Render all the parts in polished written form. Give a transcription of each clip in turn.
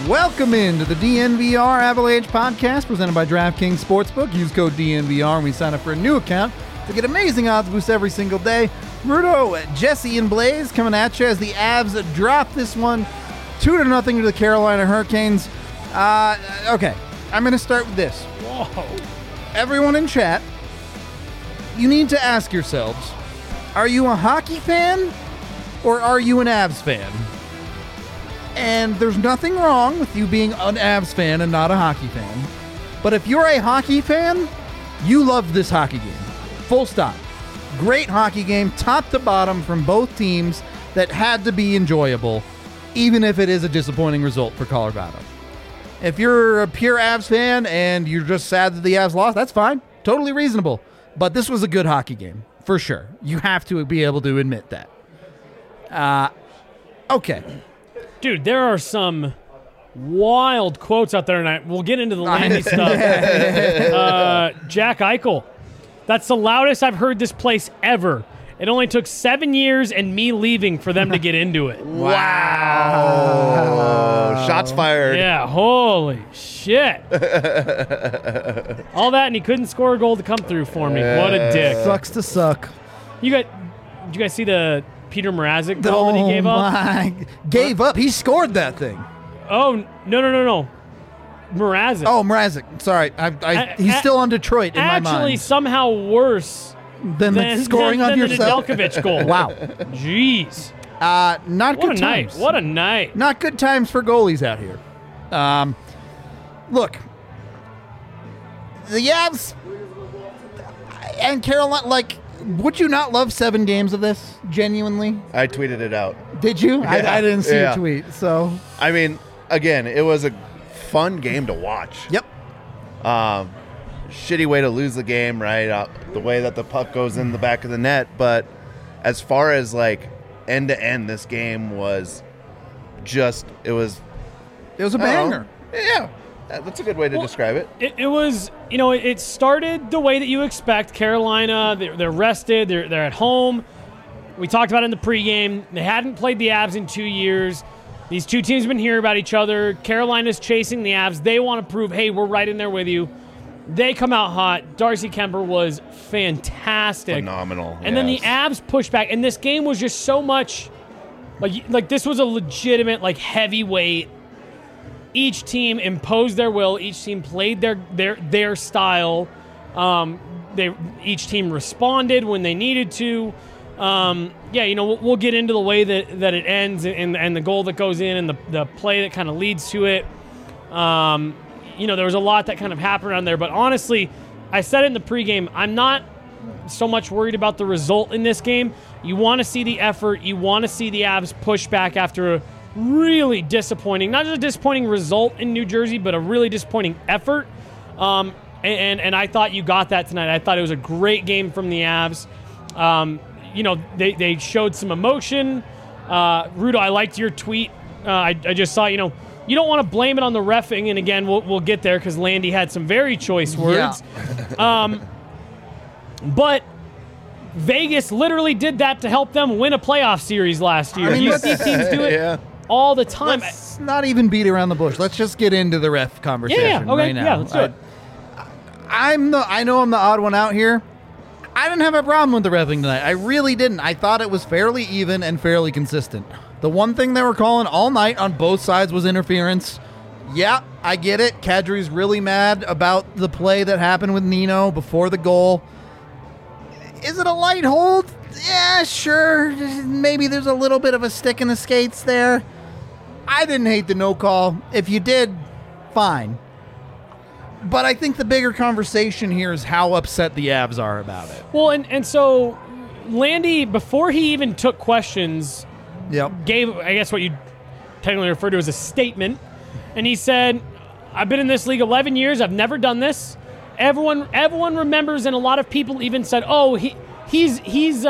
Welcome into the DNVR Avalanche podcast presented by DraftKings Sportsbook. Use code DNVR when we sign up for a new account to get amazing odds boosts every single day. Rudo, Jesse, and Blaze coming at you as the Avs drop this one 2-0 to the Carolina Hurricanes. Okay, I'm going to start with this. Whoa. Everyone in chat, you need to ask yourselves, are you a hockey fan or are you an Avs fan? And there's nothing wrong with you being an Avs fan and not a hockey fan. But if you're a hockey fan, you love this hockey game. Full stop. Great hockey game, top to bottom from both teams that had to be enjoyable, even if it is a disappointing result for Colorado. If you're a pure Avs fan and you're just sad that the Avs lost, that's fine. Totally reasonable. But this was a good hockey game, for sure. You have to be able to admit that. Okay. Dude, there are some wild quotes out there, and we'll get into the Landy stuff. Jack Eichel. That's the loudest I've heard this place ever. It only took 7 years and me leaving for them to get into it. Wow. Shots fired. Yeah, holy shit. All that, and he couldn't score a goal to come through for me. What a dick. Sucks to suck. Did you guys see the Peter Mrazek goal that he gave up? Gave up? He scored that thing. Oh, no. Mrazek. Oh, Mrazek. Sorry. He's still on Detroit in my mind. Actually, somehow worse than scoring on yourself. The Nedeljkovic goal. Wow. Jeez. Not good times. What a night. Not good times for goalies out here. Look, the Avs and Carolina, would you not love 7 games of this, genuinely? I tweeted it out. Did you? Yeah. I didn't see your tweet, so. I mean, again, it was a fun game to watch. Yep. Shitty way to lose the game, right? The way that the puck goes in the back of the net. But as far as, end to end, this game was it was a banger. Yeah. That's a good way to describe it. It was, it started the way that you expect. Carolina, they're rested, they're at home. We talked about it in the pregame. They hadn't played the Avs in 2 years. These two teams have been hearing about each other. Carolina's chasing the Avs. They want to prove, hey, we're right in there with you. They come out hot. Darcy Kemper was fantastic. Phenomenal. And then the Avs pushed back. And this game was just so much, this was a legitimate, heavyweight. Each team imposed their will. Each team played their style. Each team responded when they needed to. We'll get into the way that it ends and the goal that goes in and the play that kind of leads to it. There was a lot that kind of happened around there. But honestly, I said it in the pregame, I'm not so much worried about the result in this game. You want to see the effort. You want to see the Avs push back after a really disappointing, not just a disappointing result in New Jersey, but a really disappointing effort. And I thought you got that tonight. I thought it was a great game from the Avs. They showed some emotion. Rudo, I liked your tweet. I just saw, you don't want to blame it on the reffing. And again, we'll get there because Landy had some very choice words. Yeah. But Vegas literally did that to help them win a playoff series last year. You see teams do it all the time. Let's not even beat around the bush. Let's just get into the ref conversation right now. Yeah, let's do it. I know I'm the odd one out here. I didn't have a problem with the reffing tonight. I really didn't. I thought it was fairly even and fairly consistent. The one thing they were calling all night on both sides was interference. Yeah, I get it. Kadri's really mad about the play that happened with Nino before the goal. Is it a light hold? Yeah, sure. Maybe there's a little bit of a stick in the skates there. I didn't hate the no call. If you did, fine. But I think the bigger conversation here is how upset the Avs are about it. Well, and so Landy, before he even took questions, gave, I guess, what you technically refer to as a statement. And he said, I've been in this league 11 years. I've never done this. Everyone remembers, and a lot of people even said, oh, he's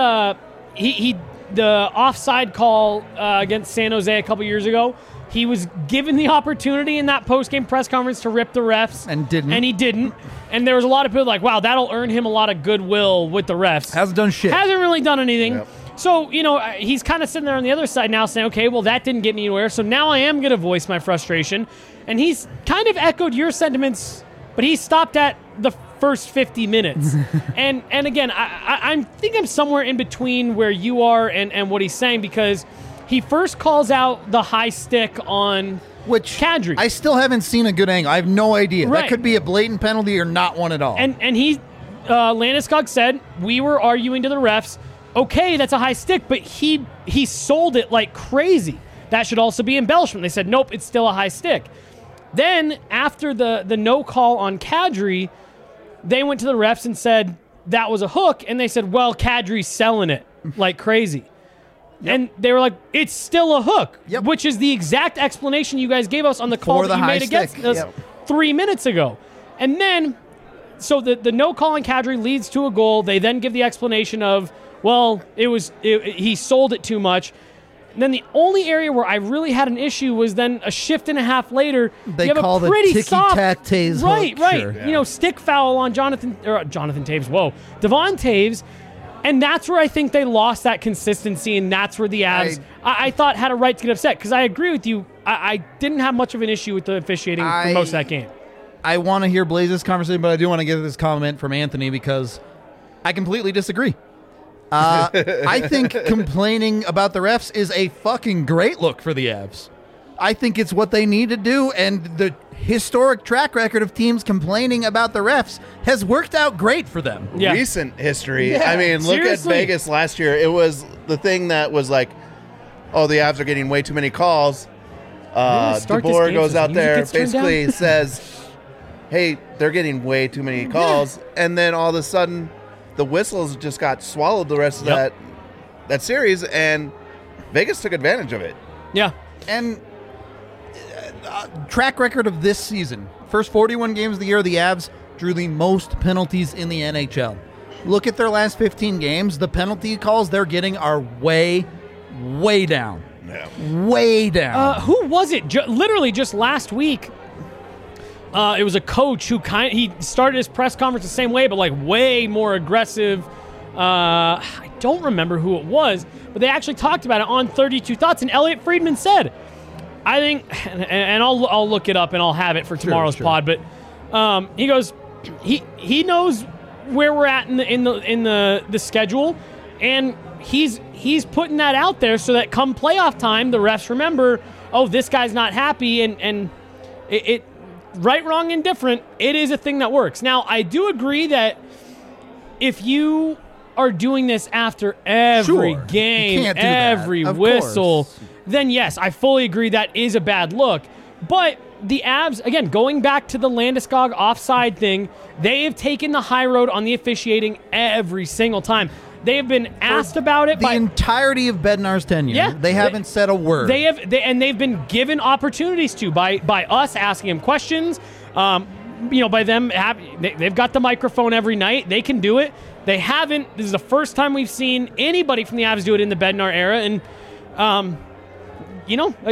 the offside call against San Jose a couple years ago. He was given the opportunity in that post-game press conference to rip the refs. And didn't. And he didn't. And there was a lot of people like, wow, that'll earn him a lot of goodwill with the refs. Hasn't done shit. Hasn't really done anything. Yep. So, he's kind of sitting there on the other side now saying, okay, well, that didn't get me anywhere, so now I am going to voice my frustration. And he's kind of echoed your sentiments, but he stopped at the first 50 minutes. and again, I think I'm somewhere in between where you are and what he's saying, because he first calls out the high stick on Kadri. I still haven't seen a good angle. I have no idea. Right. That could be a blatant penalty or not one at all. And he, Landeskog said, we were arguing to the refs, okay, that's a high stick, but he sold it like crazy. That should also be embellishment. They said, nope, it's still a high stick. Then, after the no call on Kadri, they went to the refs and said that was a hook, and they said, well, Kadri's selling it like crazy. Yep. And they were like, it's still a hook, which is the exact explanation you guys gave us on the call that you made against us 3 minutes ago. And then, so the no call on Kadri leads to a goal. They then give the explanation of, well, he sold it too much. And then the only area where I really had an issue was then a shift and a half later. They you have call a pretty the ticky-tack-taze right, hook. right. Sure. Yeah. Stick foul on Jonathan Toews. Whoa, Devon Toews. And that's where I think they lost that consistency, and that's where the Avs, I thought, had a right to get upset, because I agree with you. I didn't have much of an issue with the officiating for most of that game. I want to hear Blaze's conversation, but I do want to get this comment from Anthony, because I completely disagree. I think complaining about the refs is a fucking great look for the Avs. I think it's what they need to do, and the historic track record of teams complaining about the refs has worked out great for them. Yeah. Recent history. Yeah, I mean, look seriously. at Vegas last year. It was the thing that was like, oh, the Avs are getting way too many calls. DeBoer goes out there, basically says, hey, they're getting way too many calls. And then all of a sudden, the whistles just got swallowed the rest of that series, and Vegas took advantage of it. Yeah. And track record of this season, first 41 games of the year, the Avs drew the most penalties in the NHL. Look at their last 15 games. The penalty calls they're getting are way, way down. Yeah. Way down. Who was it? Literally just last week, it was a coach who he started his press conference the same way, but like way more aggressive. I don't remember who it was, but they actually talked about it on 32 Thoughts, and Elliot Friedman said, I think, and I'll look it up and I'll have it for tomorrow's pod, but he goes, he knows where we're at in the schedule, and he's putting that out there so that come playoff time, the refs remember, oh, this guy's not happy, and it right, wrong, and different, it is a thing that works. Now, I do agree that if you are doing this after every game, every whistle, then yes, I fully agree that is a bad look. But the Avs, again, going back to the Landeskog offside thing, they have taken the high road on the officiating every single time. They have been asked about it the entirety of Bednar's tenure. Yeah, they haven't said a word. They've been given opportunities to by us asking him questions. By them they've got the microphone every night. They can do it. They haven't. This is the first time we've seen anybody from the Avs do it in the Bednar era, and you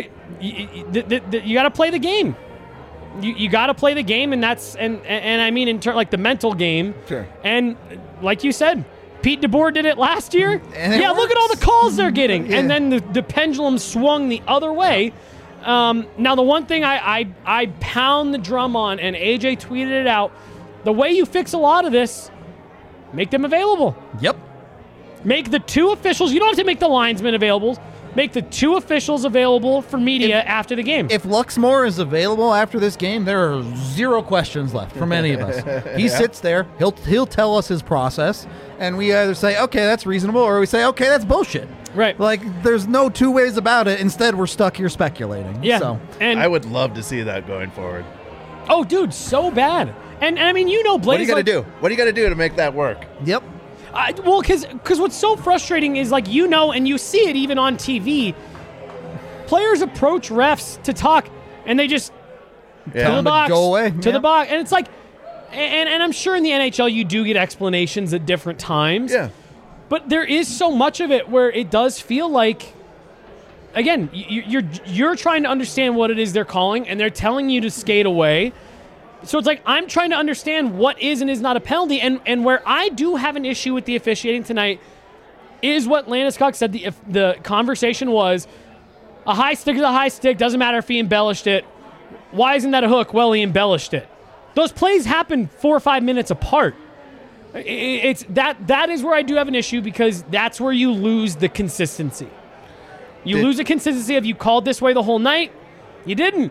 got to play the game. You got to play the game, and that's and I mean in like the mental game. Sure. And like you said, Pete DeBoer did it last year. And look at all the calls they're getting, and then the pendulum swung the other way. Now the one thing I pound the drum on, and AJ tweeted it out, the way you fix a lot of this, make them available. Yep. Make the two officials. You don't have to make the linesmen available. Make the two officials available for media after the game. If Luxmore is available after this game, there are zero questions left from any of us. He sits there. He'll tell us his process, and we either say, okay, that's reasonable, or we say, okay, that's bullshit. Right. Like, there's no two ways about it. Instead, we're stuck here speculating. Yeah. So. And I would love to see that going forward. Oh, dude, so bad. And I mean, Blaze. What do you got to do? What do you got to do to make that work? Yep. Well, because what's so frustrating is, like, and you see it even on TV, players approach refs to talk, and they just to the box, go away. to the box. And it's like, and I'm sure in the NHL you do get explanations at different times. Yeah. But there is so much of it where it does feel like, again, you're trying to understand what it is they're calling, and they're telling you to skate away. So it's like, I'm trying to understand what is and is not a penalty. And where I do have an issue with the officiating tonight is what Landeskog said. If the conversation was, a high stick is a high stick, doesn't matter if he embellished it. Why isn't that a hook? Well, he embellished it. Those plays happen 4 or 5 minutes apart. It's that is where I do have an issue, because that's where you lose the consistency. You lose the consistency of, you called this way the whole night. You didn't.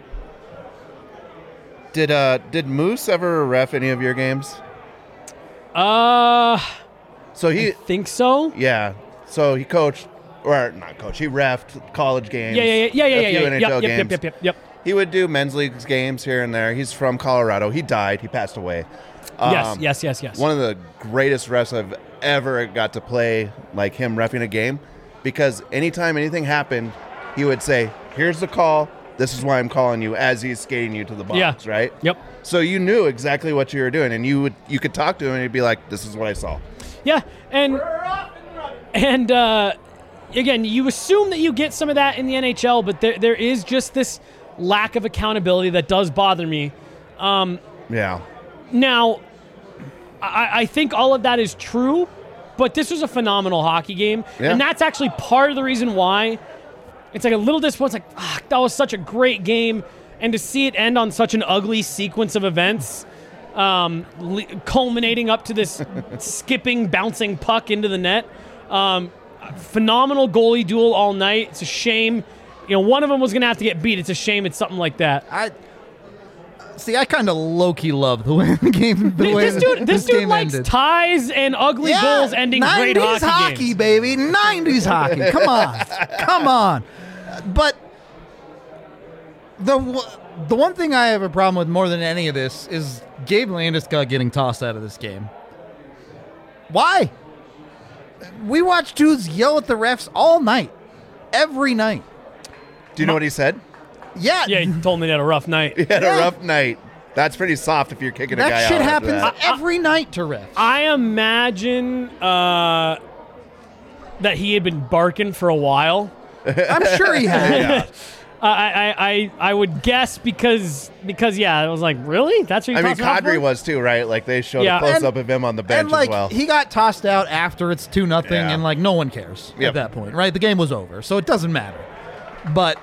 Did Moose ever ref any of your games? I think so. Yeah. So he coached, or not coached, he reffed college games. Yeah. A few NHL games. Yep. He would do men's leagues games here and there. He's from Colorado. He died. He passed away. Yes. One of the greatest refs I've ever got to play, like him reffing a game, because anytime anything happened, he would say, "Here's the call. This is why I'm calling you," as he's skating you to the box, right? Yep. So you knew exactly what you were doing, and you could talk to him, and he'd be like, "This is what I saw." Yeah, and again, you assume that you get some of that in the NHL, but there is just this lack of accountability that does bother me. Yeah. Now, I think all of that is true, but this was a phenomenal hockey game, and that's actually part of the reason why it's like a little disappointing. It's like, that was such a great game, and to see it end on such an ugly sequence of events, culminating up to this skipping, bouncing puck into the net. Phenomenal goalie duel all night. It's a shame. One of them was going to have to get beat. It's a shame it's something like that. I kind of low-key love the way the game. This dude likes ended. Ties and ugly goals ending great hockey games. 90s hockey, baby. 90s hockey. Come on. But the one thing I have a problem with more than any of this is Gabe Landeskog getting tossed out of this game. Why? We watched dudes yell at the refs all night. Every night. Do you know what he said? Yeah, he told me he had a rough night. He had a rough night. That's pretty soft if you're kicking a guy out. That shit happens every night to refs. I imagine that he had been barking for a while. I'm sure he had. I would guess because I was like, really? That's what you're Kadri was too, right? Like they showed a close up of him on the bench as well. He got tossed out after it's 2-0, and no one cares at that point, right? The game was over, so it doesn't matter. But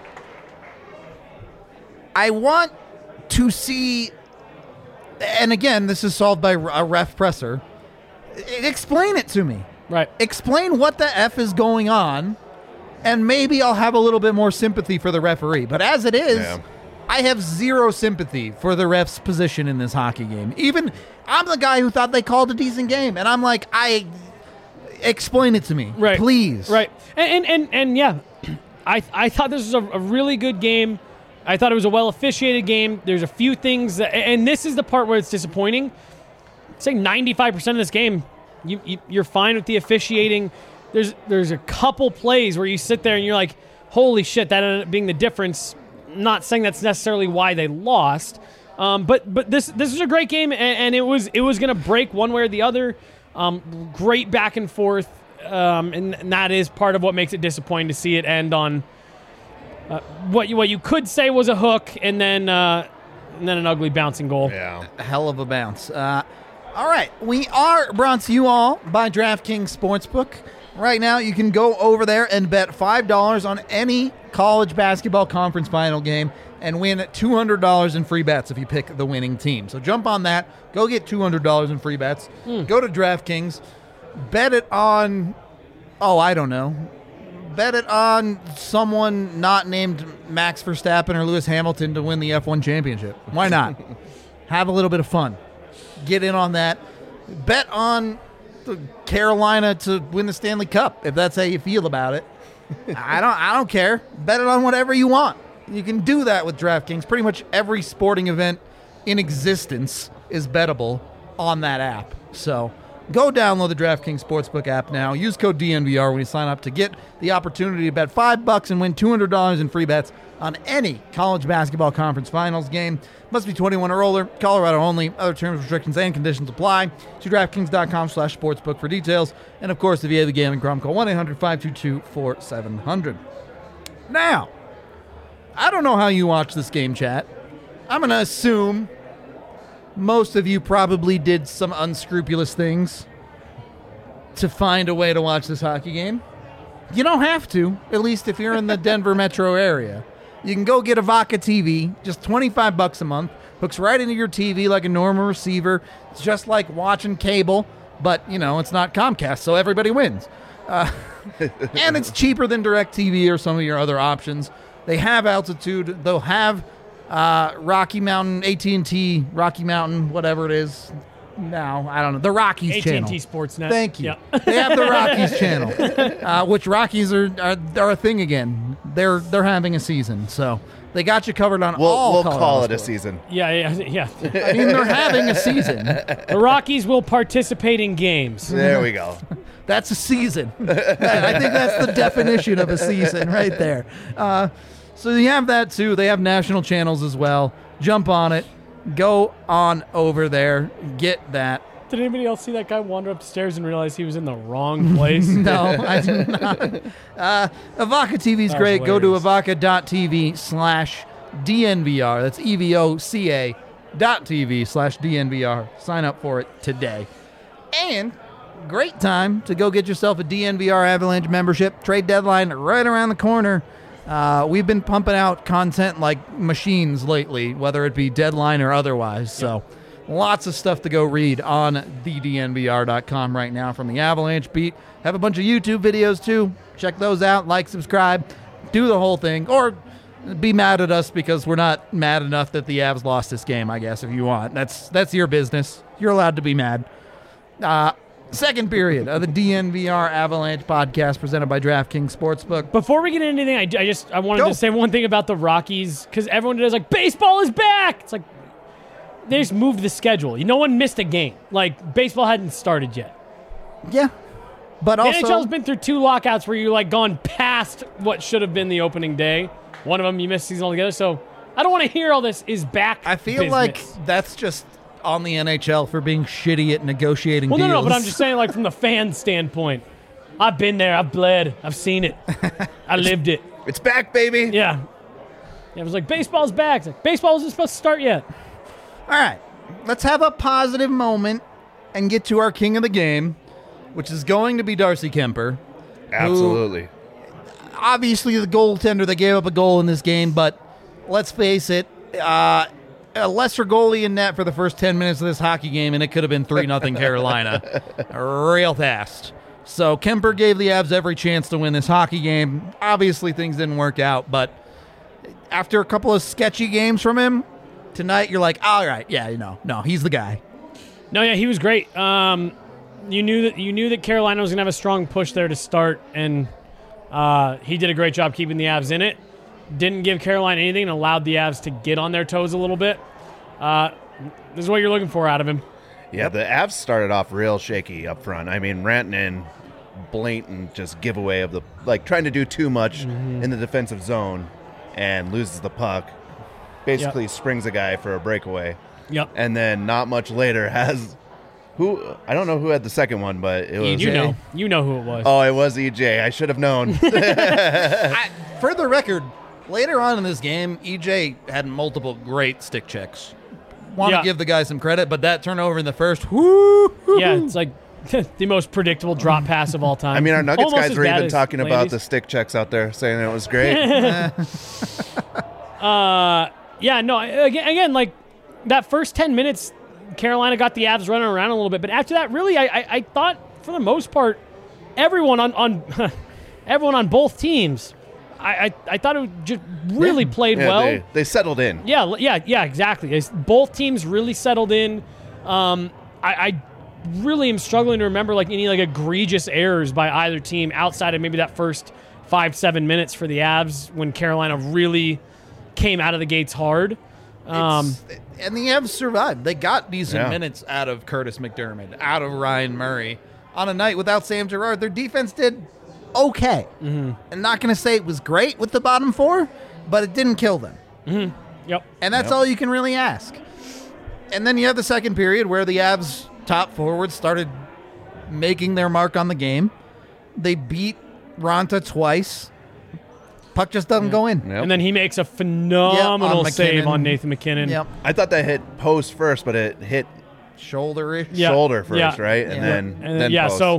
I want to see, and again, this is solved by a ref presser. Explain it to me. Right. Explain what the F is going on, and maybe I'll have a little bit more sympathy for the referee. But as it is, I have zero sympathy for the ref's position in this hockey game. Even I'm the guy who thought they called a decent game, and I'm like, explain it to me, please. Right. And yeah, I thought this was a really good game. I thought it was a well-officiated game. There's a few things, and this is the part where it's disappointing. Say 95% of this game, you're fine with the officiating. There's a couple plays where you sit there and you're like, holy shit, that ended up being the difference. Not saying that's necessarily why they lost, but this is a great game, and it was going to break one way or the other. Great back and forth, and that is part of what makes it disappointing to see it end on what you could say was a hook, and then an ugly bouncing goal. Yeah, a hell of a bounce. All right, we are brought to you all by DraftKings Sportsbook. Right now, you can go over there and bet $5 on any college basketball conference final game and win $200 in free bets if you pick the winning team. So jump on that. Go get $200 in free bets. Go to DraftKings. Bet it on, I don't know. Bet it on someone not named Max Verstappen or Lewis Hamilton to win the F1 championship. Why not? Have a little bit of fun. Get in on that. Bet on Carolina to win the Stanley Cup if that's how you feel about it. I don't care. Bet it on whatever you want. You can do that with DraftKings. Pretty much every sporting event in existence is bettable on that app. So go download the DraftKings Sportsbook app now. Use code DNVR when you sign up to get the opportunity to bet $5 and win $200 in free bets on any college basketball conference finals game. Must be 21 or older. Colorado only. Other terms, restrictions, and conditions apply. See DraftKings.com/sportsbook for details. And, of course, if you have the gambling problem, call 1-800-522-4700. Now, I don't know how you watch this game, chat. I'm going to assume most of you probably did some unscrupulous things. to find a way to watch this hockey game, you don't have to, at least if you're in the Denver metro area. You can go get Avaca TV, just $25 a month. Hooks right into your TV like a normal receiver. It's just like watching cable, but, it's not Comcast, so everybody wins. And it's cheaper than DirecTV or some of your other options. They have Altitude. They'll have Rocky Mountain, AT&T, Rocky Mountain, whatever it is. No, I don't know. The Rockies channel. AT&T Sportsnet. Thank you. Yep. They have the Rockies channel, which Rockies are a thing again. They're having a season, so they got you covered on all. We'll Colorado call it a sports. season. Yeah. I mean, they're having a season. The Rockies will participate in games. There we go. That's a season. I think that's the definition of a season right there. So you have that too. They have national channels as well. Jump on it. Go on over there. Get that. Did anybody else see that guy wander upstairs and realize he was in the wrong place? No, I did not. Avaca TV is great. Go to avaca.tv/DNVR. That's EVOCA.TV/DNVR. Sign up for it today. And great time to go get yourself a DNVR Avalanche membership. Trade deadline right around the corner. We've been pumping out content like machines lately, whether it be deadline or otherwise. So lots of stuff to go read on thednvr.com right now from the Avalanche beat. Have a bunch of YouTube videos too. Check those out. Like, subscribe, do the whole thing. Or be mad at us because we're not mad enough that the Avs lost this game, I guess, if you want. That's your business. You're allowed to be mad. Second period of the DNVR Avalanche podcast presented by DraftKings Sportsbook. Before we get into anything, I wanted to say one thing about the Rockies, because everyone does baseball is back. It's like they just moved the schedule. No one missed a game. Baseball hadn't started yet. Yeah. But the also, NHL's been through 2 lockouts where you gone past what should have been the opening day. One of them you missed season altogether. So I don't want to hear all this is back. I feel business. like that's just on the NHL for being shitty at negotiating deals. No, but I'm just saying, from the fan standpoint, I've been there, I've bled, I've seen it, I lived it. It's back, baby. Yeah. It was baseball's back. It's baseball wasn't supposed to start yet. All right, let's have a positive moment and get to our king of the game, which is going to be Darcy Kuemper. Absolutely. Obviously, the goaltender that gave up a goal in this game, but let's face it, a lesser goalie in net for the first 10 minutes of this hockey game, and it could have been 3-0 Carolina real fast. So Kuemper gave the Avs every chance to win this hockey game. Obviously, things didn't work out, but after a couple of sketchy games from him, tonight you're like, all right, no, he's the guy. No, yeah, he was great. You knew that Carolina was going to have a strong push there to start, and he did a great job keeping the Avs in it. Didn't give Carolina anything and allowed the Avs to get on their toes a little bit. This is what you're looking for out of him. Yeah, the Avs started off real shaky up front. I mean, Rantanen, blatant just giveaway of trying to do too much in the defensive zone and loses the puck. Basically springs a guy for a breakaway. Yep. And then not much later has I don't know who had the second one, but it was EJ. You know who it was. Oh, it was EJ. I should have known. For the record, later on in this game, EJ had multiple great stick checks. Want to give the guy some credit, but that turnover in the first, yeah, it's the most predictable drop pass of all time. I mean, our Nuggets Almost guys were even talking ladies. about the stick checks out there, saying it was great. Yeah, no, again, that first 10 minutes, Carolina got the Avs running around a little bit, but after that, really, I thought for the most part, everyone on both teams, I thought it just really played well. They settled in. Yeah, exactly. Both teams really settled in. I really am struggling to remember any egregious errors by either team outside of maybe that first 5-7 minutes for the Avs when Carolina really came out of the gates hard. And the Avs survived. They got decent minutes out of Curtis McDermott, out of Ryan Murray. On a night without Sam Girard, their defense did okay. Mm-hmm. I'm not going to say it was great with the bottom four, but it didn't kill them. Mm-hmm. Yep. And that's all you can really ask. And then you have the second period where the Avs top forwards started making their mark on the game. They beat Ronta twice. Puck just doesn't go in. Yep. And then he makes a phenomenal save on Nathan MacKinnon. Yep. I thought that hit post first, but it hit shoulder first, right? And then yeah. post. So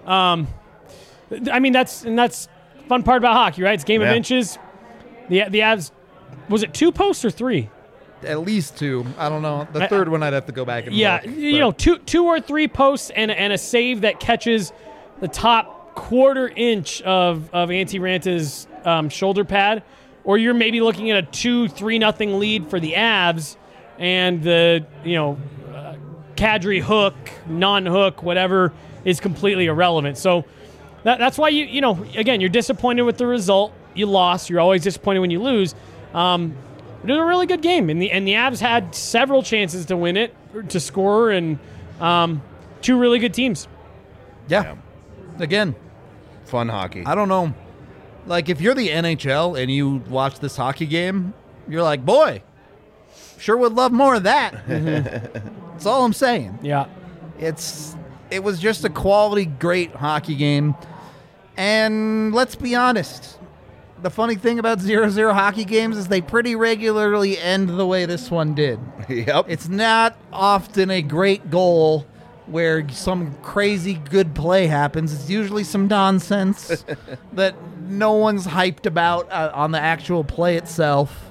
I mean, that's fun part about hockey, right? It's a game of inches. The Avs, was it 2 posts or 3? At least 2. I don't know. The third one I'd have to go back and look. Two or 3 posts and a save that catches the top quarter inch of Antti Ranta's shoulder pad, or you're maybe looking at a 2-3-0 lead for the Avs, and the Kadri hook, non-hook, whatever is completely irrelevant. So that's why again, you're disappointed with the result. You lost. You're always disappointed when you lose. It was a really good game, and the Avs had several chances to win it, to score, and 2 really good teams. Yeah. Again, fun hockey. I don't know. Like, if you're the NHL and you watch this hockey game, you're like, boy, sure would love more of that. That's all I'm saying. Yeah. It was just a quality, great hockey game. And let's be honest, the funny thing about 0-0 hockey games is they pretty regularly end the way this one did. Yep. It's not often a great goal where some crazy good play happens. It's usually some nonsense that no one's hyped about on the actual play itself.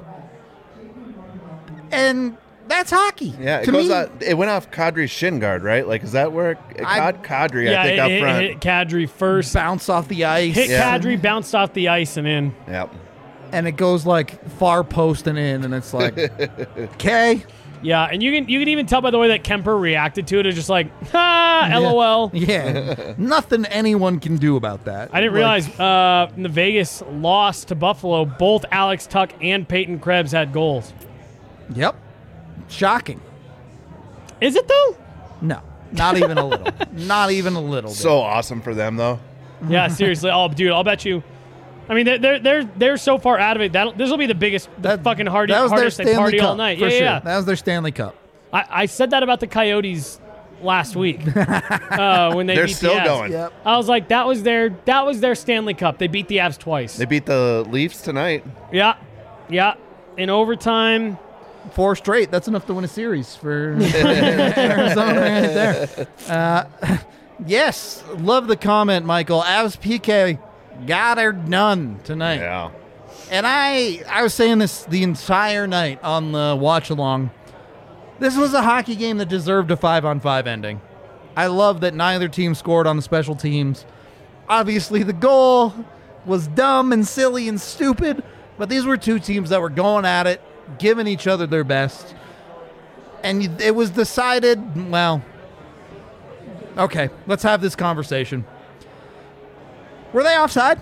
And that's hockey. Yeah, it went off Kadri's shin guard, right? Like, is that where Kadri, I think, up front. Hit Kadri first. Bounce off the ice. Kadri, bounced off the ice and in. Yep. And it goes, like, far post and in, and it's like, okay. Yeah, and you can even tell by the way that Kemper reacted to it. It's just like, LOL. Yeah. Nothing anyone can do about that. I didn't realize in the Vegas loss to Buffalo, both Alex Tuch and Peyton Krebs had goals. Yep. Shocking. Is it, though? No. Not even a little. Not even a little bit. So awesome for them, though. Yeah, seriously. Oh, dude, I'll bet you. I mean, they're so far out of it. This will be the biggest, fucking hardest they party all night. For sure. Yeah. That was their Stanley Cup. I said that about the Coyotes last week when they They're beat still the Avs. going. Yep. I was like, that was their Stanley Cup. They beat the Avs twice. They beat the Leafs tonight. Yeah. In overtime. 4 straight. That's enough to win a series for Arizona right there. Yes. Love the comment, Michael. Avs PK got her done tonight. Yeah. And I was saying this the entire night on the watch-along. This was a hockey game that deserved a 5-on-5 ending. I love that neither team scored on the special teams. Obviously, the goal was dumb and silly and stupid, but these were 2 teams that were going at it, giving each other their best. And it was decided, well, okay, let's have this conversation. Were they offside?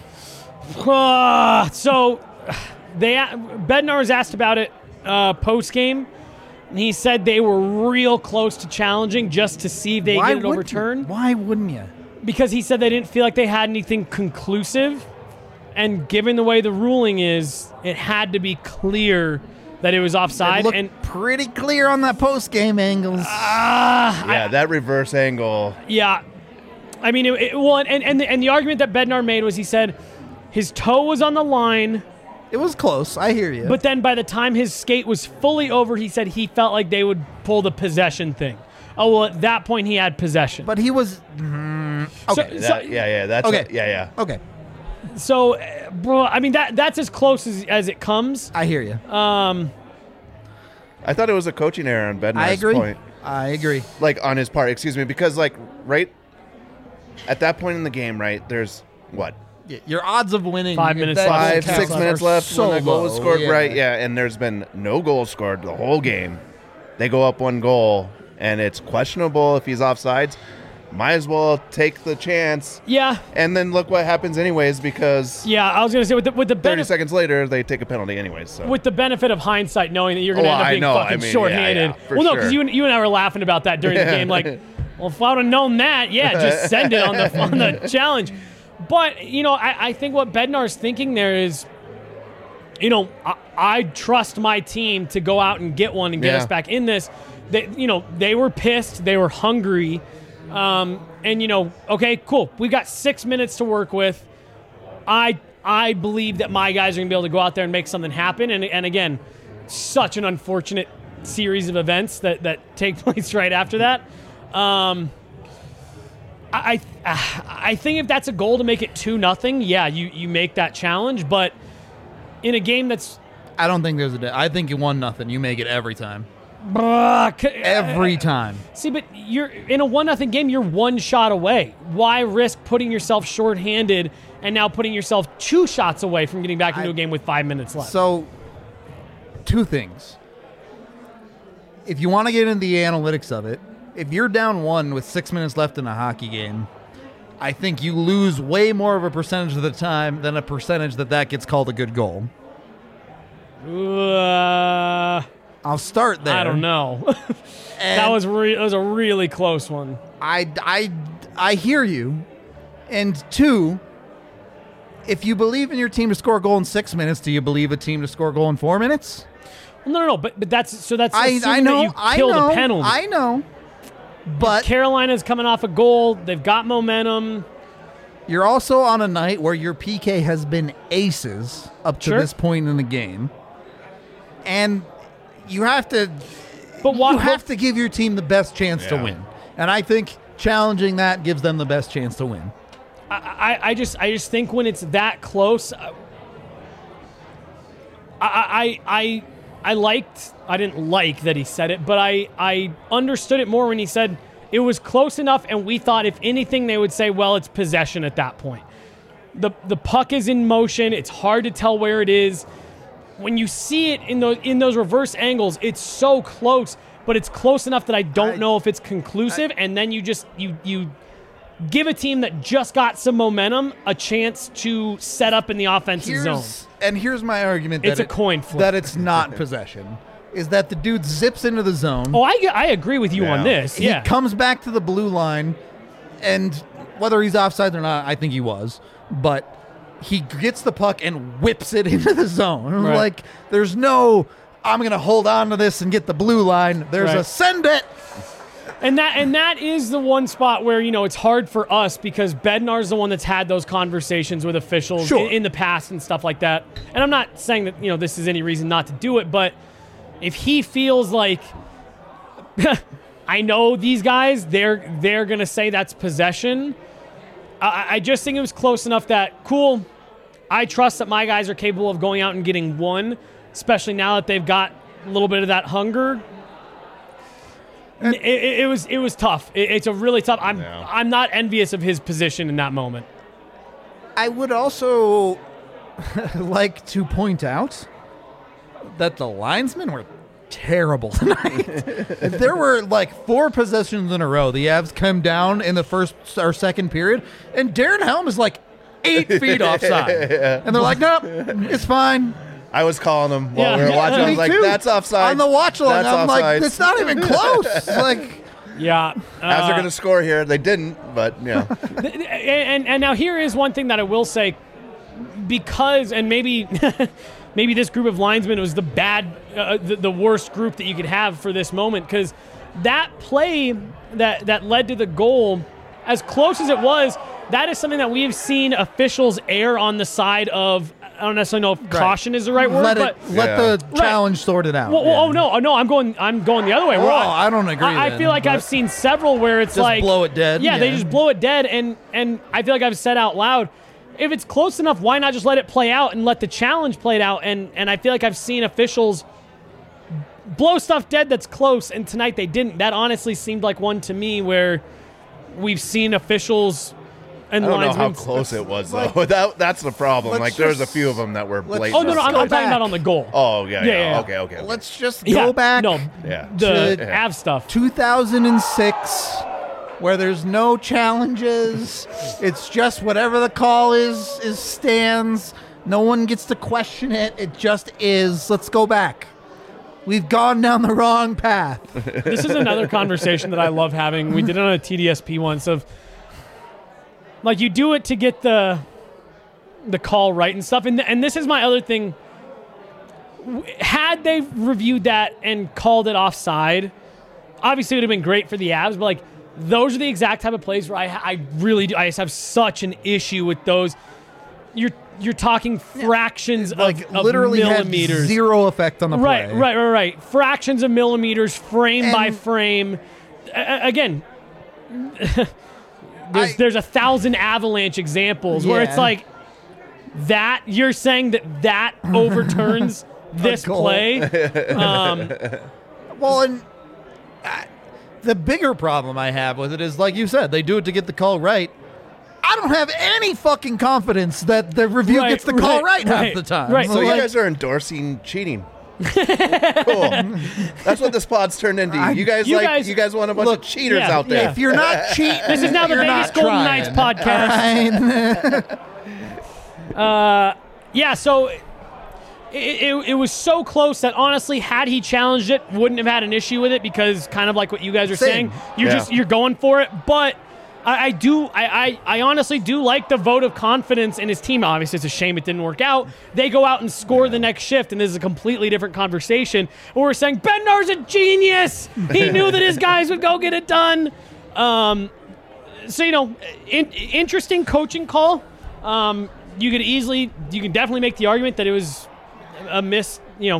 So Bednar was asked about it post-game, and he said they were real close to challenging just to see if they get it overturned. Why wouldn't you? Because he said they didn't feel like they had anything conclusive, and given the way the ruling is, it had to be clear that it was offside. It looked pretty clear on that post-game angles. That reverse angle. Yeah. I mean, and the argument that Bednar made was he said his toe was on the line. It was close. I hear you. But then by the time his skate was fully over, he said he felt like they would pull the possession thing. Oh, well, at that point, he had possession. But he was... Okay. That's okay. Okay. So, bro, I mean, that's as close as it comes. I hear you. I thought it was a coaching error on Bednar's point. I agree. Like, on his part, excuse me, because, like, right at that point in the game, right, there's what? Your odds of winning 5 minutes left. 6 minutes left so when the goal was low. scored, right? Yeah, and there's been no goal scored the whole game. They go up 1 goal, and it's questionable if he's offsides. Might as well take the chance. Yeah. And then look what happens anyways, because I was going to say, with the 30 seconds later, they take a penalty anyways. So. With the benefit of hindsight, knowing that you're going to end up being fucking shorthanded. Well, no, because you and I were laughing about that during the game. Like, well, if I would have known that, just send it on the challenge. But, I think what Bednar's thinking there is, I trust my team to go out and get one and get us back in this. They were pissed. They were hungry. Okay, cool. We've got 6 minutes to work with. I believe that my guys are going to be able to go out there and make something happen. And again, such an unfortunate series of events that take place right after that. I think if that's a goal to make it 2-0, yeah, you make that challenge. But in a game that's, I don't think there's I think you 1-0. You make it every time. Every time. See, but you're in a 1-0 game. You're one shot away. Why risk putting yourself shorthanded and now putting yourself 2 shots away from getting back into a game with 5 minutes left? So, 2 things. If you want to get into the analytics of it, if you're down 1 with 6 minutes left in a hockey game, I think you lose way more of a percentage of the time than a percentage that gets called a good goal. I'll start there. I don't know. that was a really close one. I hear you. And 2, if you believe in your team to score a goal in 6 minutes, do you believe a team to score a goal in 4 minutes? No. But that's assuming that you killed a penalty. I know. But Carolina's coming off a goal. They've got momentum. You're also on a night where your PK has been aces up to this point in the game. And you have to to give your team the best chance to win. And I think challenging that gives them the best chance to win. I just think when it's that close, I didn't like that he said it, but I understood it more when he said it was close enough, and we thought if anything they would say, well, it's possession at that point. The puck is in motion. It's hard to tell where it is. When you see it in those reverse angles, it's so close, but it's close enough that I don't know if it's conclusive, and then you give a team that just got some momentum a chance to set up in the offensive zone. And here's my argument. It's a coin flip. That it's not possession. Is that the dude zips into the zone. Oh, I agree with you on this. He comes back to the blue line, and whether he's offside or not, I think he was. But he gets the puck and whips it into the zone. Right. Like, there's no, I'm going to hold on to this and get the blue line. There's a send it. And that is the one spot where, it's hard for us because Bednar's the one that's had those conversations with officials in the past and stuff like that. And I'm not saying that, this is any reason not to do it, but if he feels like, I know these guys, they're going to say that's possession. I just think it was close enough that, cool, I trust that my guys are capable of going out and getting one, especially now that they've got a little bit of that hunger. It was tough. It's a really tough. I'm not envious of his position in that moment. I would also like to point out that the linesmen were terrible tonight. There were like 4 possessions in a row. The Avs come down in the first or second period, and Darren Helm is like 8 feet offside. And they're like, nope, it's fine. I was calling them while we were watching. I was like, that's offside. On the watch along, I'm like, it's not even close. Like, yeah. Avs are going to score here. They didn't, but yeah. And now here is one thing that I will say, because, and maybe this group of linesmen was the worst group that you could have for this moment, because that play that led to the goal, as close as it was, that is something that we have seen officials err on the side of. I don't necessarily know if caution is the right word, let the challenge sort it out. Well, oh no, I'm going the other way. I don't agree. I feel like I've seen several where it's just like blow it dead. Yeah, they just blow it dead, and I feel like I've said out loud, if it's close enough, why not just let it play out and let the challenge play it out? And I feel like I've seen officials blow stuff dead that's close, and tonight they didn't. That honestly seemed like one to me where we've seen officials. And I don't know how close it was, though. That's the problem. Like, there's a few of them that were blatant. Oh, no, I'm talking about on the goal. Oh, yeah. Okay. Let's just go back to Av stuff. 2006, where there's no challenges. It's just whatever the call is stands. No one gets to question it. It just is. Let's go back. We've gone down the wrong path. This is another conversation that I love having. We did it on a TDSP once of, like, you do it to get the call right and stuff. And this is my other thing. Had they reviewed that and called it offside, obviously it would have been great for the Avs. But, like, those are the exact type of plays where I really do. I just have such an issue with those. You're talking fractions of literally millimeters. Had zero effect on the play. Right. Fractions of millimeters, frame by frame. Again... there's 1,000 Avalanche examples where it's like that. You're saying that overturns this play. Well, and the bigger problem I have with it is, like you said, they do it to get the call right. I don't have any fucking confidence that the review gets the call right half the time. Right. So you guys are endorsing cheating. Cool. That's what this pod's turned into. You guys want a bunch of cheaters out there. If you're not cheating, this is now the Vegas Golden Knights podcast. So it was so close that honestly, had he challenged it, wouldn't have had an issue with it, because kind of like what you guys are saying, you're going for it. But I honestly do like the vote of confidence in his team. Obviously, it's a shame it didn't work out. They go out and score the next shift, and this is a completely different conversation where we're saying Bednar's a genius. He knew that his guys would go get it done. Interesting coaching call. You can definitely make the argument that it was a missed.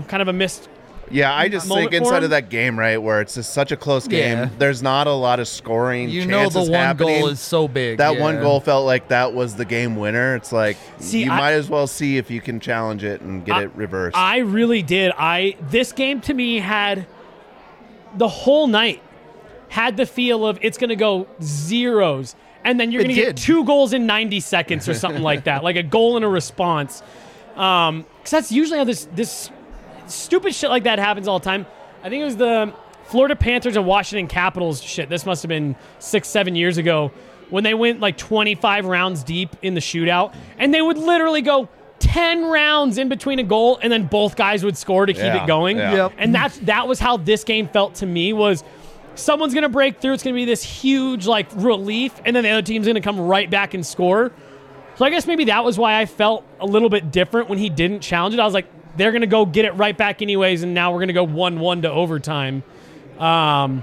Yeah, I just think inside of that game, right, where it's just such a close game, there's not a lot of scoring chances the one happening. goal is so big. That one goal felt like that was the game winner. It's like, might as well see if you can challenge it and get it reversed. I really did. This game to me had the whole night had the feel of it's going to go zeros, and then you're going to get 2 goals in 90 seconds or something like that, like a goal and a response. Because that's usually how this stupid shit like that happens all the time. I think it was the Florida Panthers and Washington Capitals shit. This must have been 6-7 years ago when they went like 25 rounds deep in the shootout, and they would literally go 10 rounds in between a goal, and then both guys would score to keep it going. Yeah. Yep. And that was how this game felt to me. Was someone's going to break through. It's going to be this huge like relief, and then the other team's going to come right back and score. So I guess maybe that was why I felt a little bit different when he didn't challenge it. I was like, they're going to go get it right back anyways, and now we're going to go 1-1 to overtime. But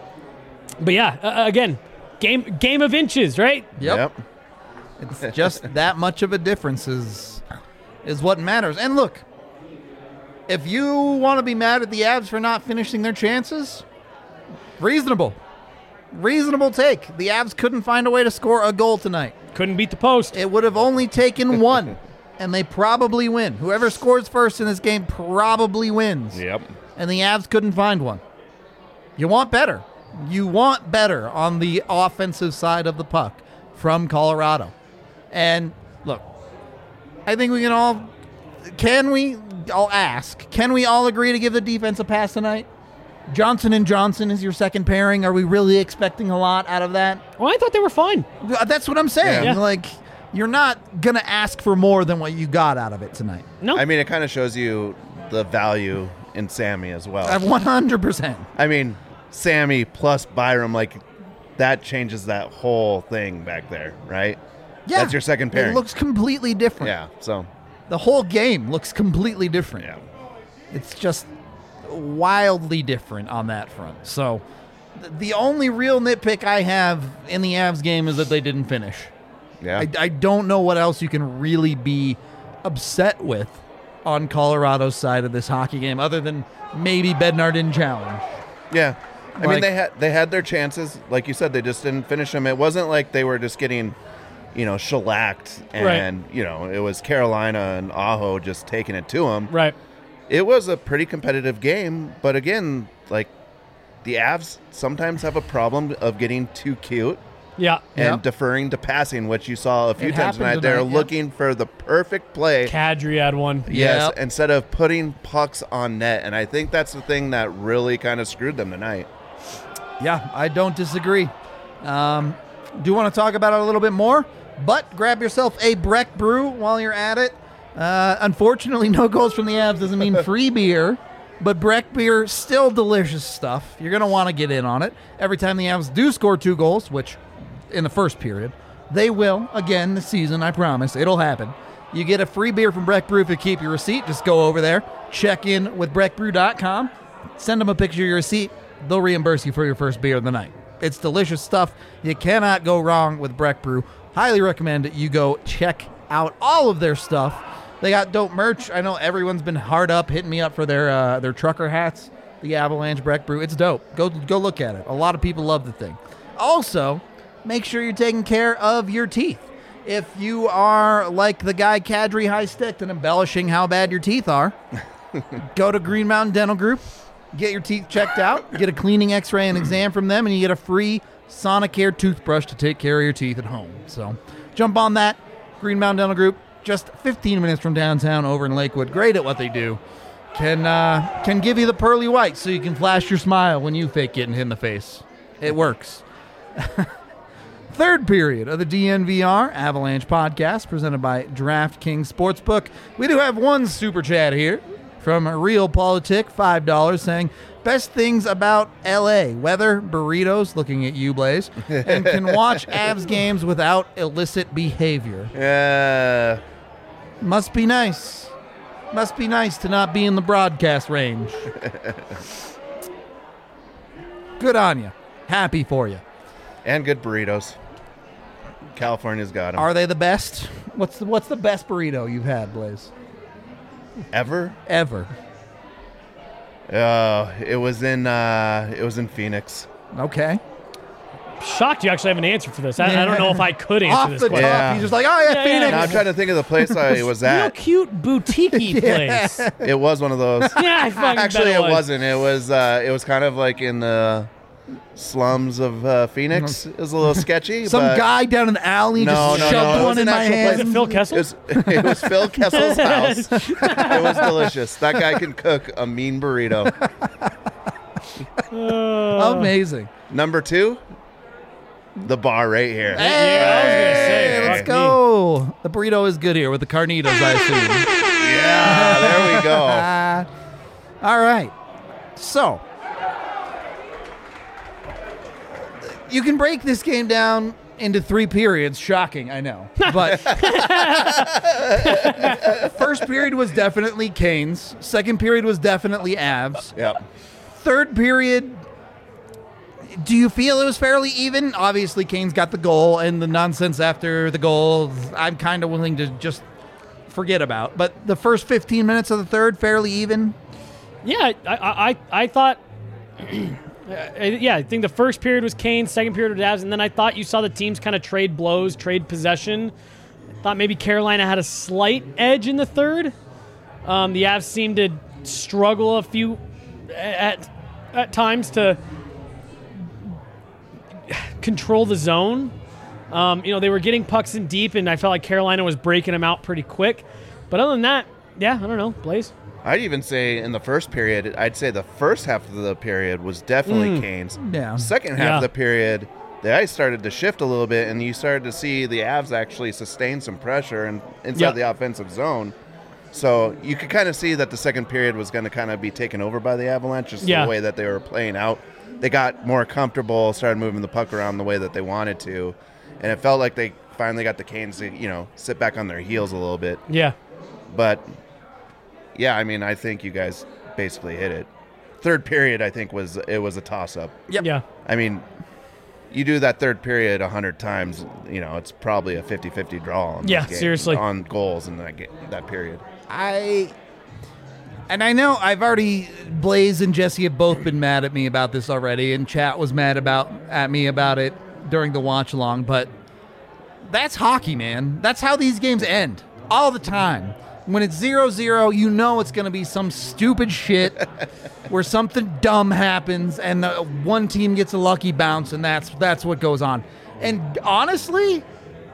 yeah, again, game of inches, right? Yep. It's just that much of a difference is what matters. And look, if you want to be mad at the Avs for not finishing their chances, reasonable take. The Avs couldn't find a way to score a goal tonight. Couldn't beat the post. It would have only taken one. And they probably win. Whoever scores first in this game probably wins. Yep. And the Avs couldn't find one. You want better. You want better on the offensive side of the puck from Colorado. And look, I think we can all... I'll ask. Can we all agree to give the defense a pass tonight? Johnson and Johnson is your second pairing. Are we really expecting a lot out of that? Well, I thought they were fine. That's what I'm saying. Yeah. Like... You're not going to ask for more than what you got out of it tonight. No. I mean, it kind of shows you the value in Sammy as well. 100%. I mean, Sammy plus Byram, like, that changes that whole thing back there, right? Yeah. That's your second pairing. It looks completely different. Yeah, so. The whole game looks completely different. Yeah. It's just wildly different on that front. So, the only real nitpick I have in the Avs game is that they didn't finish. Yeah. I don't know what else you can really be upset with on Colorado's side of this hockey game other than maybe Bednar didn't challenge. Yeah. I mean, they had their chances. Like you said, they just didn't finish them. It wasn't like they were just getting, shellacked and, it was Carolina and Aho just taking it to them. Right. It was a pretty competitive game. But again, like the Avs sometimes have a problem of getting too cute. Yeah. And deferring to passing, which you saw a few times tonight. They're looking for the perfect play. Kadri had one. Yes, instead of putting pucks on net. And I think that's the thing that really kind of screwed them tonight. Yeah, I don't disagree. Do you want to talk about it a little bit more? But grab yourself a Breck Brew while you're at it. Unfortunately, no goals from the Avs doesn't mean free beer. But Breck beer, still delicious stuff. You're going to want to get in on it. Every time the Avs do score 2 goals, which... in the first period. They will again this season, I promise. It'll happen. You get a free beer from Breck Brew if you keep your receipt. Just go over there, check in with breckbrew.com, send them a picture of your receipt. They'll reimburse you for your first beer of the night. It's delicious stuff. You cannot go wrong with Breck Brew. Highly recommend you go check out all of their stuff. They got dope merch. I know everyone's been hard up, hitting me up for their trucker hats, the Avalanche Breck Brew. It's dope. Go look at it. A lot of people love the thing. Also, make sure you're taking care of your teeth. If you are like the guy Kadri High-Sticked and embellishing how bad your teeth are, go to Green Mountain Dental Group, get your teeth checked out, get a cleaning x-ray and exam from them, and you get a free Sonicare toothbrush to take care of your teeth at home. So jump on that. Green Mountain Dental Group, just 15 minutes from downtown over in Lakewood. Great at what they do. Can give you the pearly white so you can flash your smile when you fake getting hit in the face. It works. Third period of the DNVR Avalanche podcast presented by DraftKings Sportsbook. We do have one super chat here from Real Politic, $5, saying, best things about L.A. weather, burritos, looking at you, Blaze, and can watch Avs games without illicit behavior. Yeah. Must be nice. Must be nice to not be in the broadcast range. Good on you. Happy for you. And good burritos. California's got them. Are they the best? What's the best burrito you've had, Blaze? Ever? It was in Phoenix. Okay. Shocked you actually have an answer for this. I don't know if I could answer this question. Top, he's just like, oh yeah, Phoenix. No, I'm trying to think of the place I was at. Real cute boutique-y place. It was one of those. Yeah, I fucking actually bet it wasn't. It was kind of like in the slums of Phoenix. It was a little sketchy. Some guy down in the alley shoved one in my hand. Was it Phil Kessel? It was Phil Kessel's house. It was delicious. That guy can cook a mean burrito. Amazing. Number 2, the bar right here. Hey, I was gonna say, let's go. The burrito is good here with the carnitas, I assume. Yeah, there we go. All right. So, you can break this game down into 3 periods. Shocking, I know. But first period was definitely Canes. Second period was definitely Avs. Yep. Third period, do you feel it was fairly even? Obviously, Canes got the goal, and the nonsense after the goal, I'm kind of willing to just forget about. But the first 15 minutes of the third, fairly even? Yeah, I thought... I think the first period was Canes, second period was Avs, and then I thought you saw the teams kind of trade blows, trade possession. I thought maybe Carolina had a slight edge in the third. The Avs seemed to struggle a few at times to control the zone. They were getting pucks in deep, and I felt like Carolina was breaking them out pretty quick. But other than that, yeah, I don't know, Blaze. I'd even say in the first period, I'd say the first half of the period was definitely Canes. Yeah. Second half of the period, the ice started to shift a little bit, and you started to see the Avs actually sustain some pressure inside the offensive zone. So you could kind of see that the second period was going to kind of be taken over by the Avalanche, just the way that they were playing out. They got more comfortable, started moving the puck around the way that they wanted to, and it felt like they finally got the Canes to, sit back on their heels a little bit. Yeah. But... yeah, I mean, I think you guys basically hit it. Third period, I think, was a toss-up. Yep. Yeah. I mean, you do that third period 100 times, it's probably a 50-50 draw on this game, seriously. on goals in that period. I know I've already, Blaze and Jesse have both been mad at me about this already, and chat was mad at me about it during the watch-along, but that's hockey, man. That's how these games end, all the time. When it's 0-0, you know it's going to be some stupid shit where something dumb happens and the one team gets a lucky bounce, and that's what goes on. And honestly,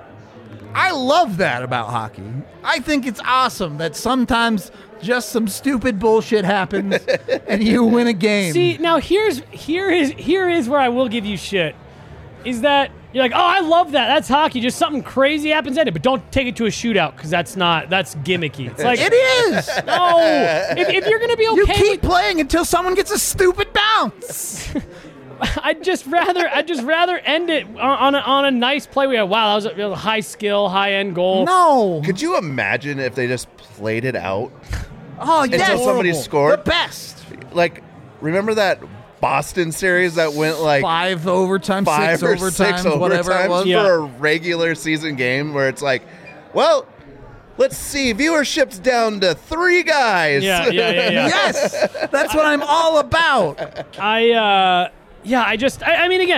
I love that about hockey. I think it's awesome that sometimes just some stupid bullshit happens and you win a game. See, now here is where I will give you shit. Is that you're like, oh, I love that. That's hockey. Just something crazy happens in it, but don't take it to a shootout because that's gimmicky. It's like it is. No, if you're gonna be okay, you keep playing until someone gets a stupid bounce. I'd just rather end it on a nice play. We had, wow, that was a high skill, high end goal. No, could you imagine if they just played it out? Oh, yes. Until somebody scored. The best. Like, remember that Boston series that went like 5 overtime, 6 overtimes, whatever it was for a regular season game where it's like, well, let's see, viewership's down to 3 guys. Yeah. Yes, that's what I'm all about. I mean, again,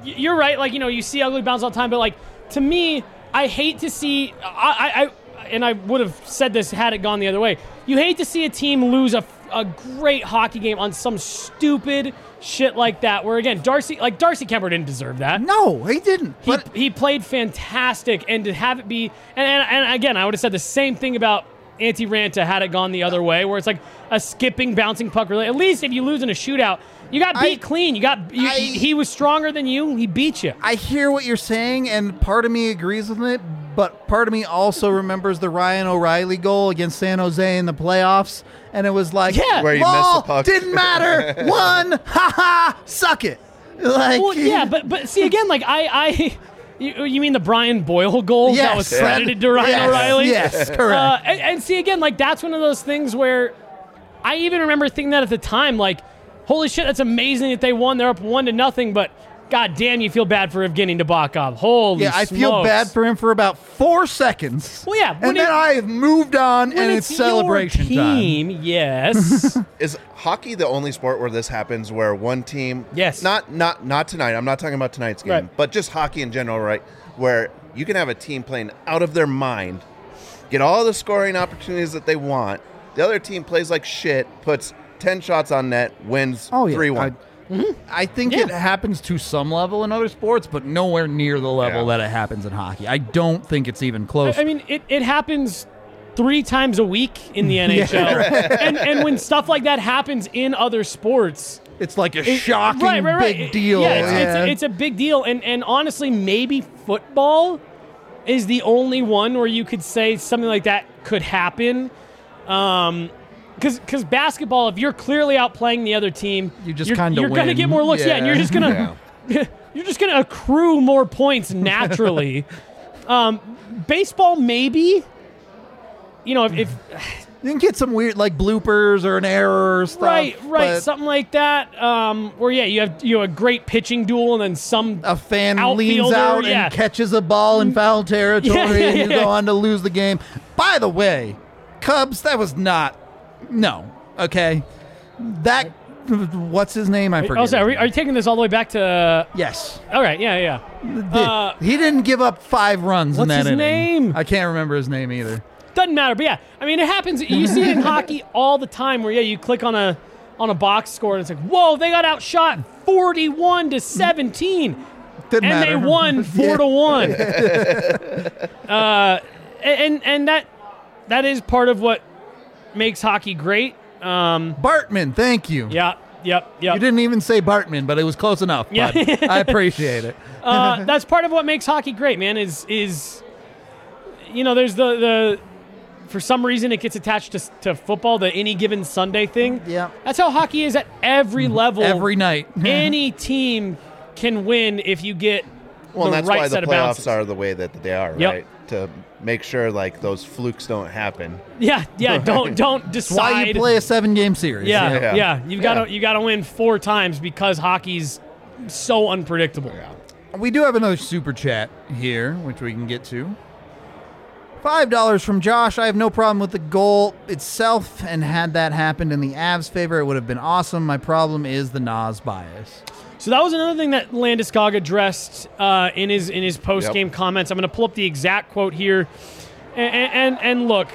you're right. Like, you see ugly bounce all the time, but like to me, I hate to see. And I would have said this had it gone the other way. You hate to see a team lose a great hockey game on some stupid shit like that. Where again, Darcy Kuemper didn't deserve that. No, he didn't. He played fantastic, and to have it be, and again, I would have said the same thing about Antti Raanta had it gone the other way, where it's like a skipping, bouncing puck. Really, at least if you lose in a shootout, you got beat clean. He was stronger than you. He beat you. I hear what you're saying, and part of me agrees with it, but part of me also remembers the Ryan O'Reilly goal against San Jose in the playoffs, and it was like, where you missed the puck. Didn't matter. Won. Ha ha. Suck it. Like, well, yeah, but see again, like you mean the Brian Boyle goal that was credited to Ryan O'Reilly? Yes, correct. And see again, like that's one of those things where I even remember thinking that at the time, like, holy shit, that's amazing that they won. They're up 1-0, but god damn, you feel bad for Evgeny Nabokov. Holy smokes. I feel bad for him for about 4 seconds. Well, yeah. And then I have moved on, and it's celebration team, time. Yes. Is hockey the only sport where this happens, where one team... Yes. Not tonight. I'm not talking about tonight's game. Right. But just hockey in general, right? Where you can have a team playing out of their mind, get all the scoring opportunities that they want. The other team plays like shit, puts 10 shots on net, wins 3-1. I think it happens to some level in other sports, but nowhere near the level that it happens in hockey. I don't think it's even close. I mean, it happens 3 times a week in the NHL. And when stuff like that happens in other sports, it's like a shocking big deal. Yeah, it's a big deal. And honestly, maybe football is the only one where you could say something like that could happen. Because basketball, if you're clearly outplaying the other team, you're going to get more looks. Yeah, and you're just gonna accrue more points naturally. Baseball, maybe. If you can get some weird like bloopers or an error or stuff. Right, something like that. Where you have a great pitching duel, and then a fan leans out and catches a ball in foul territory, and you go on to lose the game. By the way, Cubs, that was not. No. Okay. That. What's his name? I forget. Oh, sorry. Are you taking this all the way back to? Yes. All right. Yeah. He didn't give up 5 runs in that inning. What's his name? I can't remember his name either. Doesn't matter. But yeah, I mean, it happens. You see it in hockey all the time, where you click on a box score and it's like, whoa, they got outshot 41-17. Didn't matter. They won 4-1. And that is part of what makes hockey great. Bartman, thank you. Yep. You didn't even say Bartman, but it was close enough. Yeah. I appreciate it. That's part of what makes hockey great, man, is there's the for some reason it gets attached to football, the any given Sunday thing. Yeah. That's how hockey is at every level. Every night. Any team can win if you get the right set of bounces. Well, that's why the playoffs are the way that they are, right? To make sure like those flukes don't happen. Yeah. Don't decide. That's why you play a 7-game series. Yeah. You gotta win 4 times because hockey's so unpredictable. Yeah. We do have another super chat here, which we can get to. $5 from Josh. I have no problem with the goal itself, and had that happened in the Avs' favor, it would have been awesome. My problem is the Nas bias. So that was another thing that Landeskog addressed in his post-game comments. I'm going to pull up the exact quote here. And look,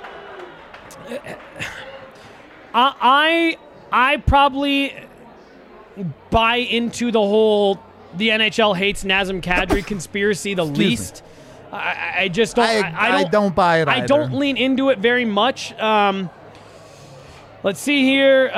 I probably buy into the whole the NHL hates Nazem Kadri conspiracy the least. I just don't. I don't buy it either. I don't lean into it very much. Let's see here.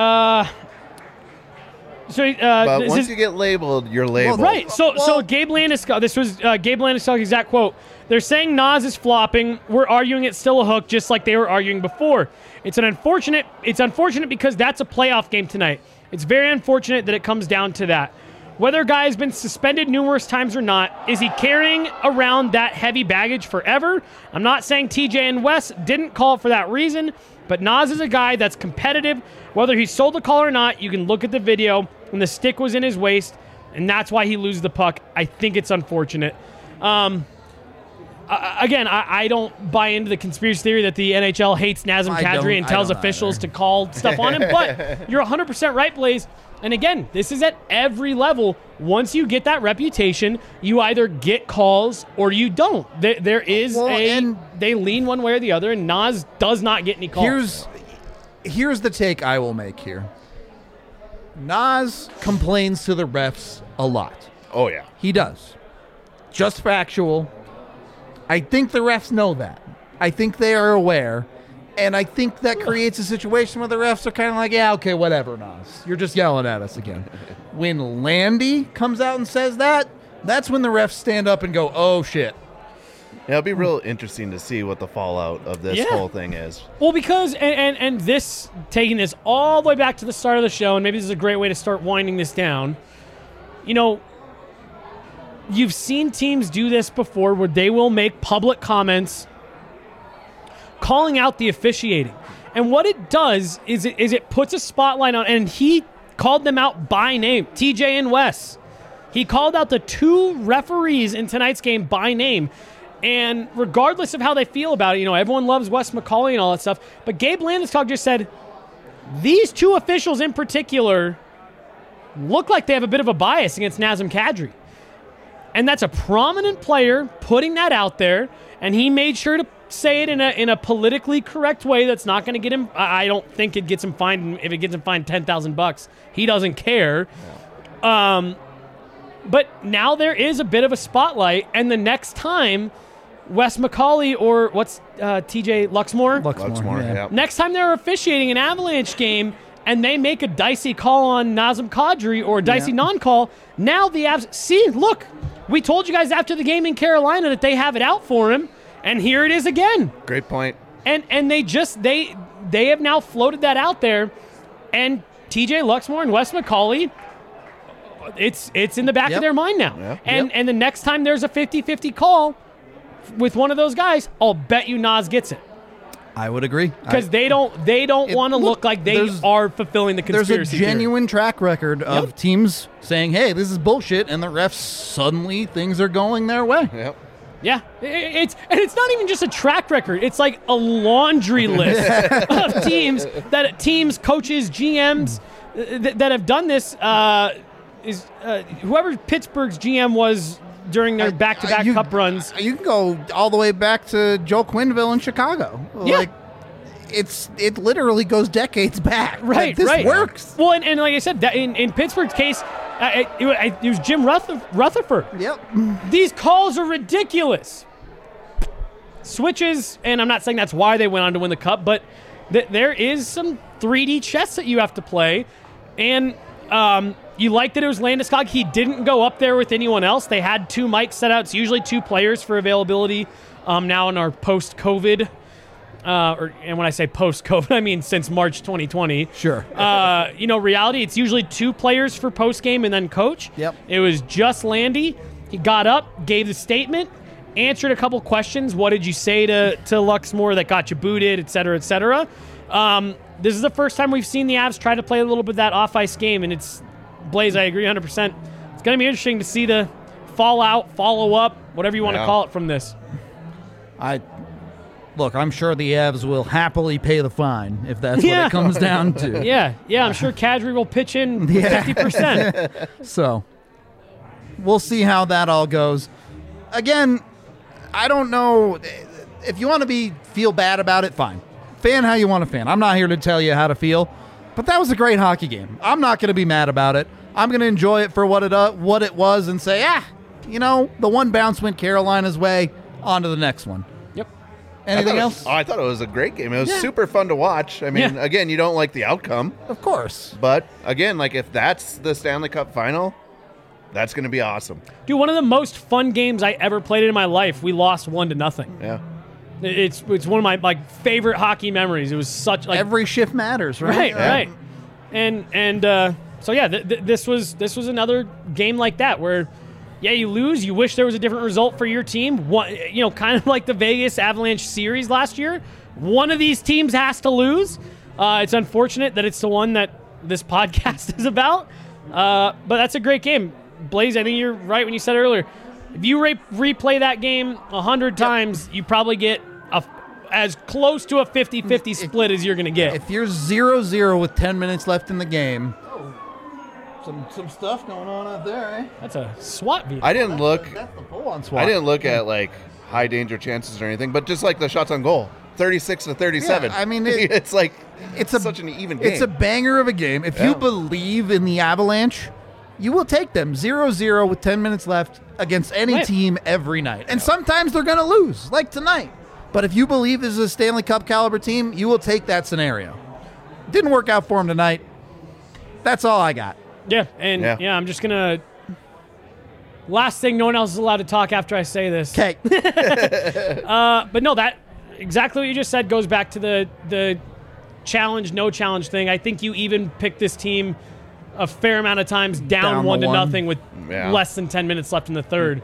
But once you get labeled, you're labeled. Well, right. So Gabe Landeskog, this was Gabe Landeskog's exact quote. They're saying Nas is flopping. We're arguing it's still a hook, just like they were arguing before. It's unfortunate because that's a playoff game tonight. It's very unfortunate that it comes down to that. Whether a guy has been suspended numerous times or not, is he carrying around that heavy baggage forever? I'm not saying TJ and Wes didn't call for that reason, but Nas is a guy that's competitive. Whether he sold the call or not, you can look at the video, and the stick was in his waist, and that's why he loses the puck. I think it's unfortunate. again, I don't buy into the conspiracy theory that the NHL hates Nazem Kadri and tells officials to call stuff on him. But you're 100% right, Blaze. And again, this is at every level. Once you get that reputation, you either get calls or you don't. There is they lean one way or the other, and Naz does not get any calls. Here's the take I will make here. Naz complains to the refs a lot. Oh, yeah. He does. Just factual. I think the refs know that. I think they are aware. And I think that creates a situation where the refs are kind of like, yeah, okay, whatever, Naz. You're just yelling at us again. When Landy comes out and says that, that's when the refs stand up and go, oh, shit. Yeah, it'll be real interesting to see what the fallout of this whole thing is. Well, because, and this, taking this all the way back to the start of the show, and maybe this is a great way to start winding this down, you know, you've seen teams do this before where they will make public comments calling out the officiating. And what it does is it puts a spotlight on, and he called them out by name, TJ and Wes. He called out the two referees in tonight's game by name. And regardless of how they feel about it, you know, everyone loves Wes McCauley and all that stuff, but Gabe Landeskog just said, these two officials in particular look like they have a bit of a bias against Nazem Kadri. And that's a prominent player putting that out there, and he made sure to say it in a politically correct way that's not going to get him. I don't think it gets him fined. If it gets him fined $10,000, he doesn't care. Yeah. But now there is a bit of a spotlight, and the next time Wes McCauley or what's TJ Luxmore? Luxmore, yeah. Next time they're officiating an Avalanche game and they make a dicey call on Nazem Kadri or a dicey non-call, now the Avs, see, look, we told you guys after the game in Carolina that they have it out for him, and here it is again. Great point. And they have now floated that out there, and TJ Luxmore and Wes McCauley, it's in the back of their mind now. Yep. And the next time there's a 50-50 call with one of those guys, I'll bet you Naz gets it. I would agree. Because they don't want to look like they are fulfilling the conspiracy There's a genuine track record of teams saying, hey, this is bullshit, and the refs, suddenly things are going their way. Yep. Yeah, it's not even just a track record. It's like a laundry list of teams, coaches, GMs that have done this. Whoever Pittsburgh's GM was during their back-to-back cup runs. You can go all the way back to Joe Quenneville in Chicago. Yeah. Like, it literally goes decades back. Right, this works. Well, and like I said, that in Pittsburgh's case, it was Jim Rutherford. Yep. These calls are ridiculous. Switches, and I'm not saying that's why they went on to win the cup, but there is some 3D chess that you have to play, and you like that it was Landeskog. He didn't go up there with anyone else. They had two mics set out. It's usually two players for availability now in our post-COVID. And when I say post-COVID, I mean since March 2020. Sure. Reality, it's usually two players for post-game and then coach. Yep. It was just Landy. He got up, gave the statement, answered a couple questions. What did you say to Luxmore that got you booted, et cetera, et cetera. This is the first time we've seen the Avs try to play a little bit of that off-ice game, and it's Blaze, I agree 100%. It's going to be interesting to see the fallout, follow-up, whatever you want to call it from this. Look, I'm sure the Avs will happily pay the fine if that's what it comes down to. Yeah, I'm sure Kadri will pitch in 50%. So, we'll see how that all goes. Again, I don't know. If you want to feel bad about it, fine. Fan how you want to fan. I'm not here to tell you how to feel. But that was a great hockey game. I'm not going to be mad about it. I'm going to enjoy it for what it was and say, the one bounce went Carolina's way, on to the next one. Yep. Anything else? I thought it was a great game. It was super fun to watch. I mean, again, you don't like the outcome. Of course. But, again, like if that's the Stanley Cup final, that's going to be awesome. Dude, one of the most fun games I ever played in my life, we lost 1-0. Yeah. It's one of my favorite hockey memories. It was such every shift matters, right? Right. And this was another game like that where you lose, you wish there was a different result for your team. Kind of like the Vegas Avalanche series last year. One of these teams has to lose. It's unfortunate that it's the one that this podcast is about. But that's a great game. Blaze, I think you're right when you said earlier. If you replay that game 100 times, you probably get as close to a 50-50 split as you're going to get. If you're 0-0 with 10 minutes left in the game, some stuff going on out there, eh? That's a SWAT vehicle. I didn't look. That's the full-on SWAT. I didn't look at like high danger chances or anything, but just like the shots on goal, 36-37. Yeah, I mean, it's like it's such an even game. It's a banger of a game. If you believe in the Avalanche, you will take them 0-0 with 10 minutes left against any team every night. And sometimes they're going to lose, like tonight. But if you believe this is a Stanley Cup caliber team, you will take that scenario. Didn't work out for them tonight. That's all I got. Yeah, and I'm just going to... Last thing, no one else is allowed to talk after I say this. Okay. But no, that exactly what you just said goes back to the challenge, no challenge thing. I think you even picked this team a fair amount of times down 1-0 with less than 10 minutes left in the third.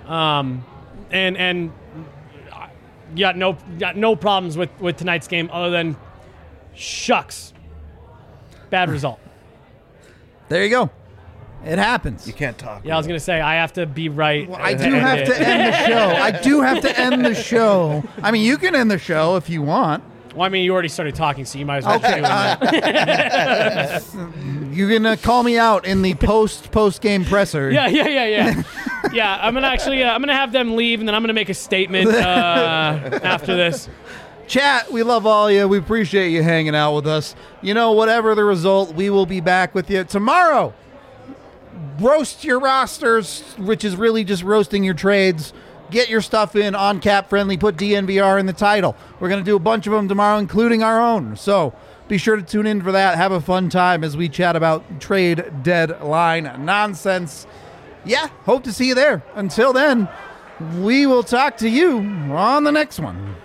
And you got no problems with tonight's game other than shucks. Bad result. There you go. It happens. You can't talk. Yeah, I was going to say, I have to be right. Well, I do have to end the show. I do have to end the show. I mean, you can end the show if you want. Well, I mean, you already started talking, so you might as well keep doing that. You can call me out in the post-game presser. Yeah. Yeah, I'm gonna have them leave, and then I'm gonna make a statement after this. Chat, we love all you. We appreciate you hanging out with us. You know, whatever the result, we will be back with you tomorrow. Roast your rosters, which is really just roasting your trades. Get your stuff in on Cap Friendly. Put DNVR in the title. We're going to do a bunch of them tomorrow, including our own. So be sure to tune in for that. Have a fun time as we chat about trade deadline nonsense. Yeah, hope to see you there. Until then, we will talk to you on the next one.